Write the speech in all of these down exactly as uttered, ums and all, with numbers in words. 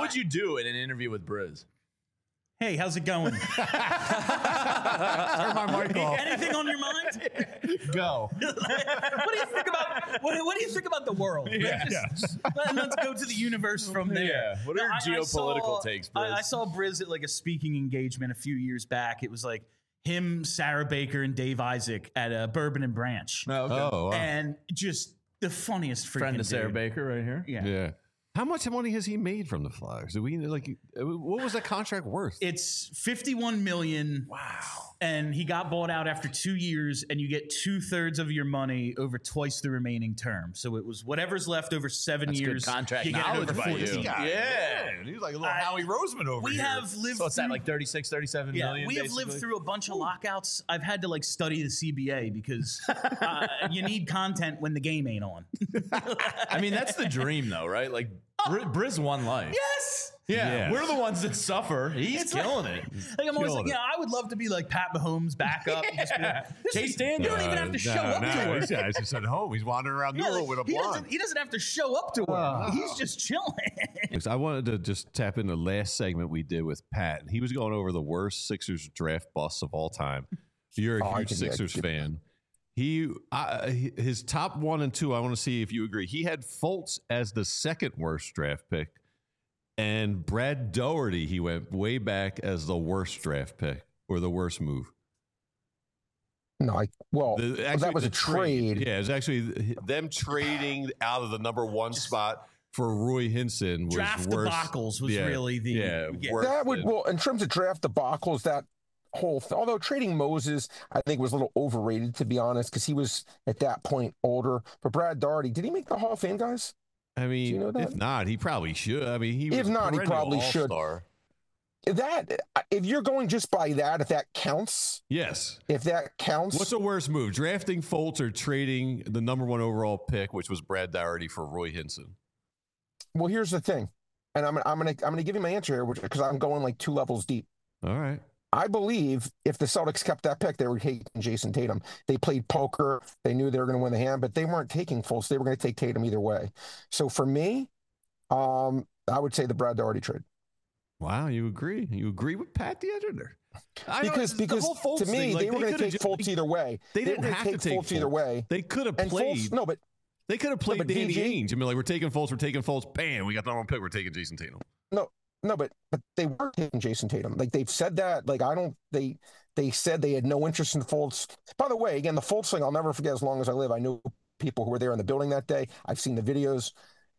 would you do in an interview with Briz? Hey, how's it going? Turn my mic off. Anything on your mind? Go. What do you think about what, what do you think about the world? Yeah. Just, let- let's go to the universe from there. Yeah. What are your I- I geopolitical saw- takes, I, Briz? I saw Briz at like a speaking engagement a few years back. It was like him, Sarah Baker, and Dave Isaac at a Bourbon and Branch, Oh, okay. Oh, wow. and just the funniest freaking Friend of Sarah dude. Baker right here. Yeah. yeah. How much money has he made from the Flyers? Do we like? What was that contract worth? It's fifty-one million. Wow. And he got bought out after two years, and you get two thirds of your money over twice the remaining term. So it was whatever's left over seven That's years. good contract you get it knowledge over by you. fourteen. Yeah. Man, he's like a little I- Howie Roseman over We here. have lived. So it's that through- like thirty-six, thirty-seven Yeah, million. we have lived basically? through a bunch of lockouts. I've had to like study the C B A because uh, you need content when the game ain't on. I mean, that's the dream, though, right? Like, Bri- Briz won life. Yes. Yeah, Yes. we're the ones that suffer. He's It's killing it. Like I'm always Killing like, it. yeah, I would love to be like Pat Mahomes backup. and just be like, this Chase is- Daniel. You don't even have to show up no, to work. He's, yeah, he's just at home. He's wandering around New Yeah, York like, with a he, blonde. doesn't, he doesn't have to show up to work. He's just chilling. I wanted to just tap in the last segment we did with Pat. He was going over the worst Sixers draft busts of all time. You're a Oh, I huge can- yeah, Sixers yeah. fan. He, uh, his top one and two. I want to see if you agree. He had Fultz as the second worst draft pick, and Brad Doherty. He went way back as the worst draft pick or the worst move. No, I well, The- well, actually, that was the a trade. Yeah, it was actually them trading out of the number one spot for Roy Hinson. Was Draft worse. debacles was Yeah, really the yeah, yeah. worse That would than- well, in terms of draft debacles, that whole th- although trading Moses, I think was a little overrated to be honest, because he was at that point older. But Brad Doherty, did he make the Hall of Fame, guys? I mean, you know that? if not, he probably should. I mean, he If was a not, he perennial probably should. all-star. That if you're going just by that, if that counts, Yes. if that counts, What's a worse move, drafting Fultz or trading the number one overall pick, which was Brad Doherty, for Roy Hinson? well, here's the thing, and I'm I'm gonna I'm gonna give you my answer here because I'm going like two levels deep. All right. I believe if the Celtics kept that pick, they were taking Jason Tatum. They played poker. They knew they were going to win the hand, but they weren't taking Fultz. They were going to take Tatum either way. So for me, um, I would say the Brad Doherty trade. Wow, you agree? You agree with Pat the editor? I know, Because it's the because whole Fultz to me, thing, like, they were going to could've take ju- Fultz either way. They were didn't gonna have to take Fultz either Fultz. way. They could have And played. Fultz, no, but They could have played but Danny V G Ainge. I mean, like, we're taking Fultz, we're taking Fultz. Bam, we got the number one pick. We're taking Jason Tatum. no, no, but but they were taking Jason Tatum. Like they've said that. Like I don't. They they said they had no interest in Fultz. By the way, again, the Fultz thing I'll never forget as long as I live. I knew people who were there in the building that day. I've seen the videos.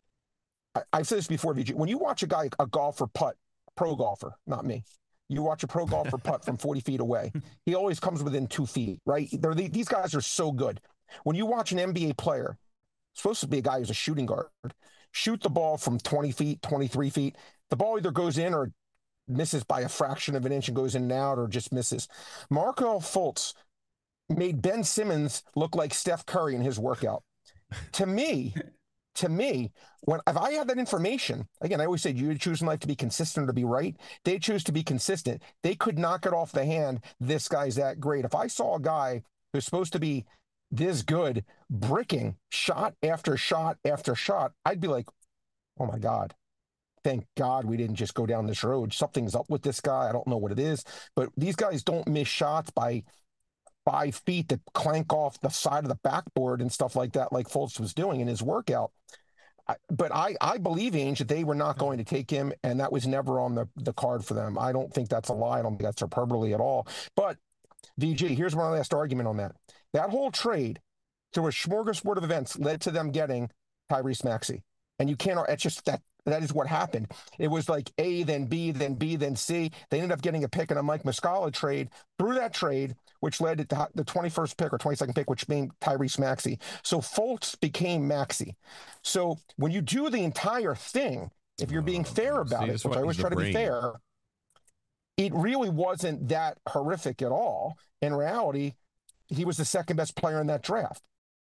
I, I've said this before, V G. When you watch a guy, a golfer putt, pro golfer, not me. You watch a pro golfer putt from forty feet away. He always comes within two feet, right? They're, the, these guys are so good. When you watch an N B A player, supposed to be a guy who's a shooting guard, shoot the ball from twenty feet, twenty-three feet, the ball either goes in or misses by a fraction of an inch and goes in and out or just misses. Markelle Fultz made Ben Simmons look like Steph Curry in his workout. To me, to me, when if I had that information, again, I always said you choose in life to be consistent or to be right. They choose to be consistent. They could knock it off the hand. This guy's that great. If I saw a guy who's supposed to be this good, bricking shot after shot after shot, I'd be like, oh my God. Thank God we didn't just go down this road. Something's up with this guy. I don't know what it is, but these guys don't miss shots by five feet that clank off the side of the backboard and stuff like that, like Fultz was doing in his workout. I, but I, I believe, Ainge, that they were not going to take him, and that was never on the, the card for them. I don't think that's a lie. I don't think that's hyperbole at all. But, V G, here's my last argument on that. That whole trade through a smorgasbord of events led to them getting Tyrese Maxey. And you can't, it's just that. That is what happened. It was like A, then B, then B, then C. They ended up getting a pick in a Mike Muscala trade through that trade, which led to the twenty-first pick or twenty-second pick, which made Tyrese Maxey. So Fultz became Maxey. So when you do the entire thing, if you're being fair about See, it, that's which why I always he's try the to be brain. fair, it really wasn't that horrific at all. In reality, he was the second best player in that draft.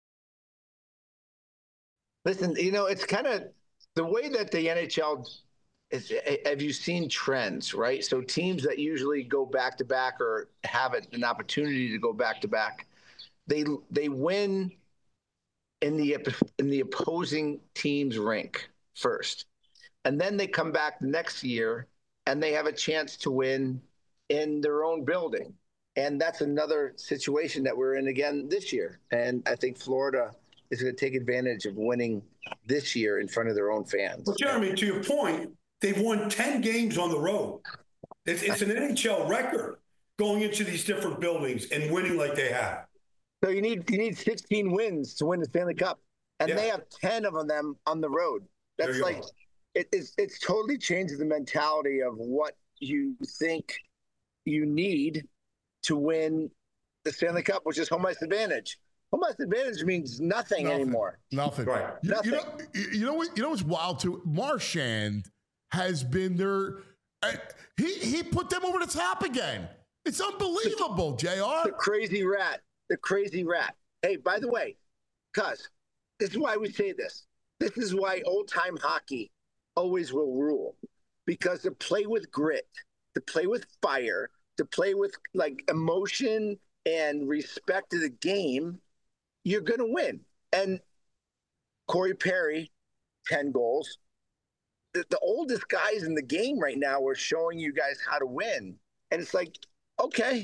Listen, you know, it's kind of the way that the N H L is. Have you seen trends, right? So teams that usually go back to back or have an opportunity to go back to back, they they win in the in the opposing team's rink first. and then they come back next year and they have a chance to win in their own building. And that's another situation that we're in again this year. And I think Florida is going to take advantage of winning this year in front of their own fans. Well, Jeremy, to your point, they've won ten games on the road. It's, it's an N H L record going into these different buildings and winning like they have. So you need you need sixteen wins to win the Stanley Cup, and yeah. they have ten of them on the road. That's like it, it's it's totally changes the mentality of what you think you need to win the Stanley Cup, which is home ice advantage. Home ice advantage means nothing, nothing. anymore. Nothing. Right. You, nothing. You know, you know what? You know what's wild too? Marchand has been their. Uh, he he put them over the top again. It's unbelievable, J R. The crazy rat. The crazy rat. Hey, by the way, cuz this is why we say this. This is why old time hockey always will rule, because to play with grit, to play with fire, to play with like emotion and respect to the game, you're going to win. And Corey Perry, ten goals. The, the oldest guys in the game right now are showing you guys how to win. And it's like, okay.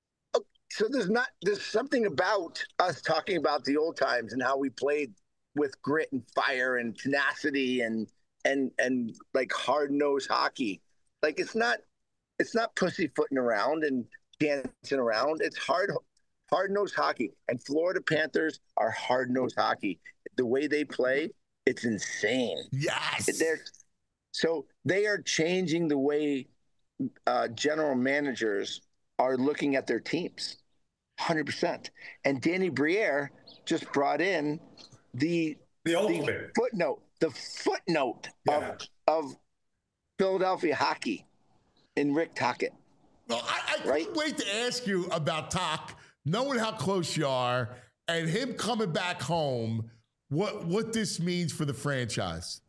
So there's not, there's something about us talking about the old times and how we played with grit and fire and tenacity and, and, and like hard-nosed hockey. Like it's not, it's not pussyfooting around and dancing around. It's hard, hard-nosed hockey. And Florida Panthers are hard-nosed hockey. The way they play, it's insane. Yes. They're, so they are changing the way uh, general managers are looking at their teams, one hundred percent. And Danny Briere just brought in the, the, the footnote, the footnote yeah. of, of Philadelphia hockey in Rick Tocchet. Well, I, I right? couldn't wait to ask you about Toc, knowing how close you are, and him coming back home, what what this means for the franchise.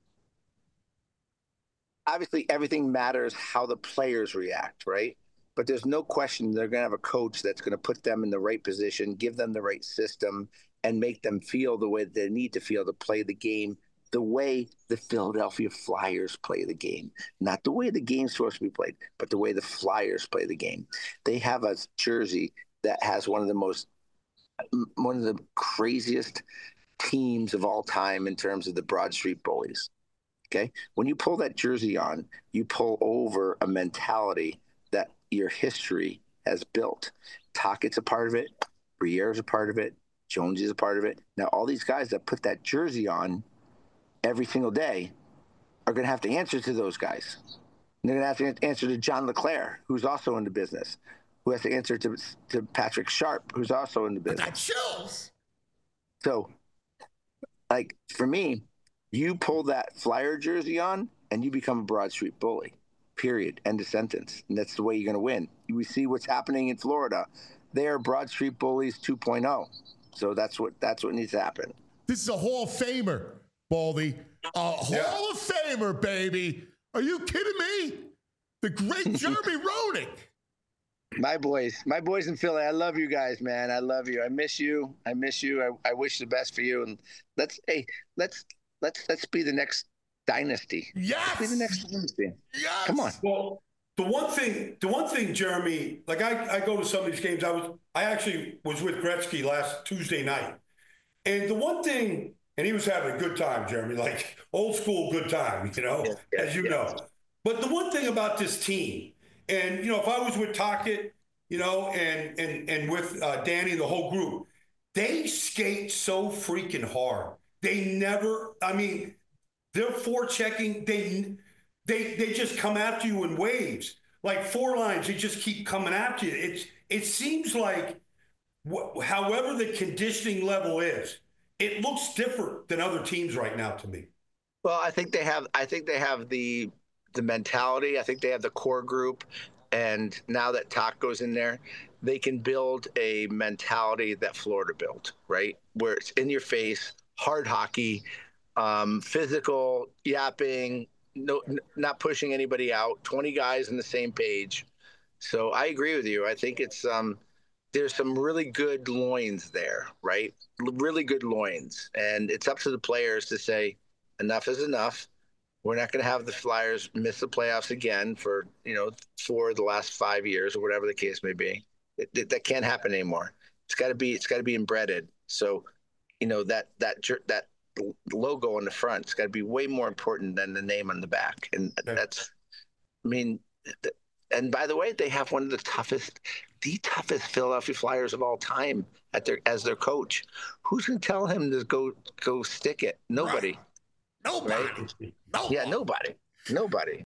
Obviously, everything matters how the players react, right? But there's no question they're going to have a coach that's going to put them in the right position, give them the right system, and make them feel the way they need to feel to play the game the way the Philadelphia Flyers play the game. Not the way the game's supposed to be played, but the way the Flyers play the game. They have a jersey that has one of the most, one of the craziest teams of all time in terms of the Broad Street Bullies. Okay? When you pull that jersey on, you pull over a mentality that your history has built. Tocchett's a part of it. Briere's a part of it. Jones is a part of it. Now, all these guys that put that jersey on every single day are going to have to answer to those guys. And they're going to have to answer to John LeClair, who's also in the business, who has to answer to, to Patrick Sharp, who's also in the business. That chills. So, like, for me, you pull that Flyer jersey on and you become a Broad Street Bully, period. End of sentence. And that's the way you're going to win. We see what's happening in Florida. They are Broad Street Bullies two point oh. So that's what that's what needs to happen. This is a Hall of Famer, Baldy. A Hall yeah. of Famer, baby. Are you kidding me? The great Jeremy Roenick. My boys, my boys in Philly. I love you guys, man. I love you. I miss you. I miss you. I, I wish the best for you. And let's, hey, let's, let's, let's be the next dynasty. Yes. Let's be the next dynasty. Yes. Come on. Well, the one thing, the one thing, Jeremy, like I, I go to some of these games. I was, I actually was with Gretzky last Tuesday night, and the one thing, and he was having a good time, Jeremy, like old school good time, you know, yeah, yeah, as you yeah. know. But the one thing about this team, and you know, if I was with Tocchet, you know, and and and with uh, Danny, the whole group, they skate so freaking hard. They never, I mean, they're forechecking. They they they just come after you in waves, like four lines. They just keep coming after you. It's it seems like, wh- however the conditioning level is, it looks different than other teams right now to me. Well, I think they have. I think they have the the mentality. I think they have the core group, and now that Toc goes in there, they can build a mentality that Florida built, right? Where it's in your face, hard hockey, um, physical, yapping, no, n- not pushing anybody out. twenty guys on the same page. So I agree with you. I think it's um, there's some really good loins there, right? Really good loins, and it's up to the players to say enough is enough. We're not going to have the Flyers miss the playoffs again for, you know, for the last five years or whatever the case may be. It, it, that can't happen anymore. It's got to be, it's got to be embedded. So, you know, that, that, that logo on the front, it's got to be way more important than the name on the back. And Okay. that's, I mean, and by the way, they have one of the toughest, the toughest Philadelphia Flyers of all time at their, as their coach. Who's going to tell him to go, go stick it? Nobody. Nobody. Right? Nobody. Yeah, nobody. Nobody.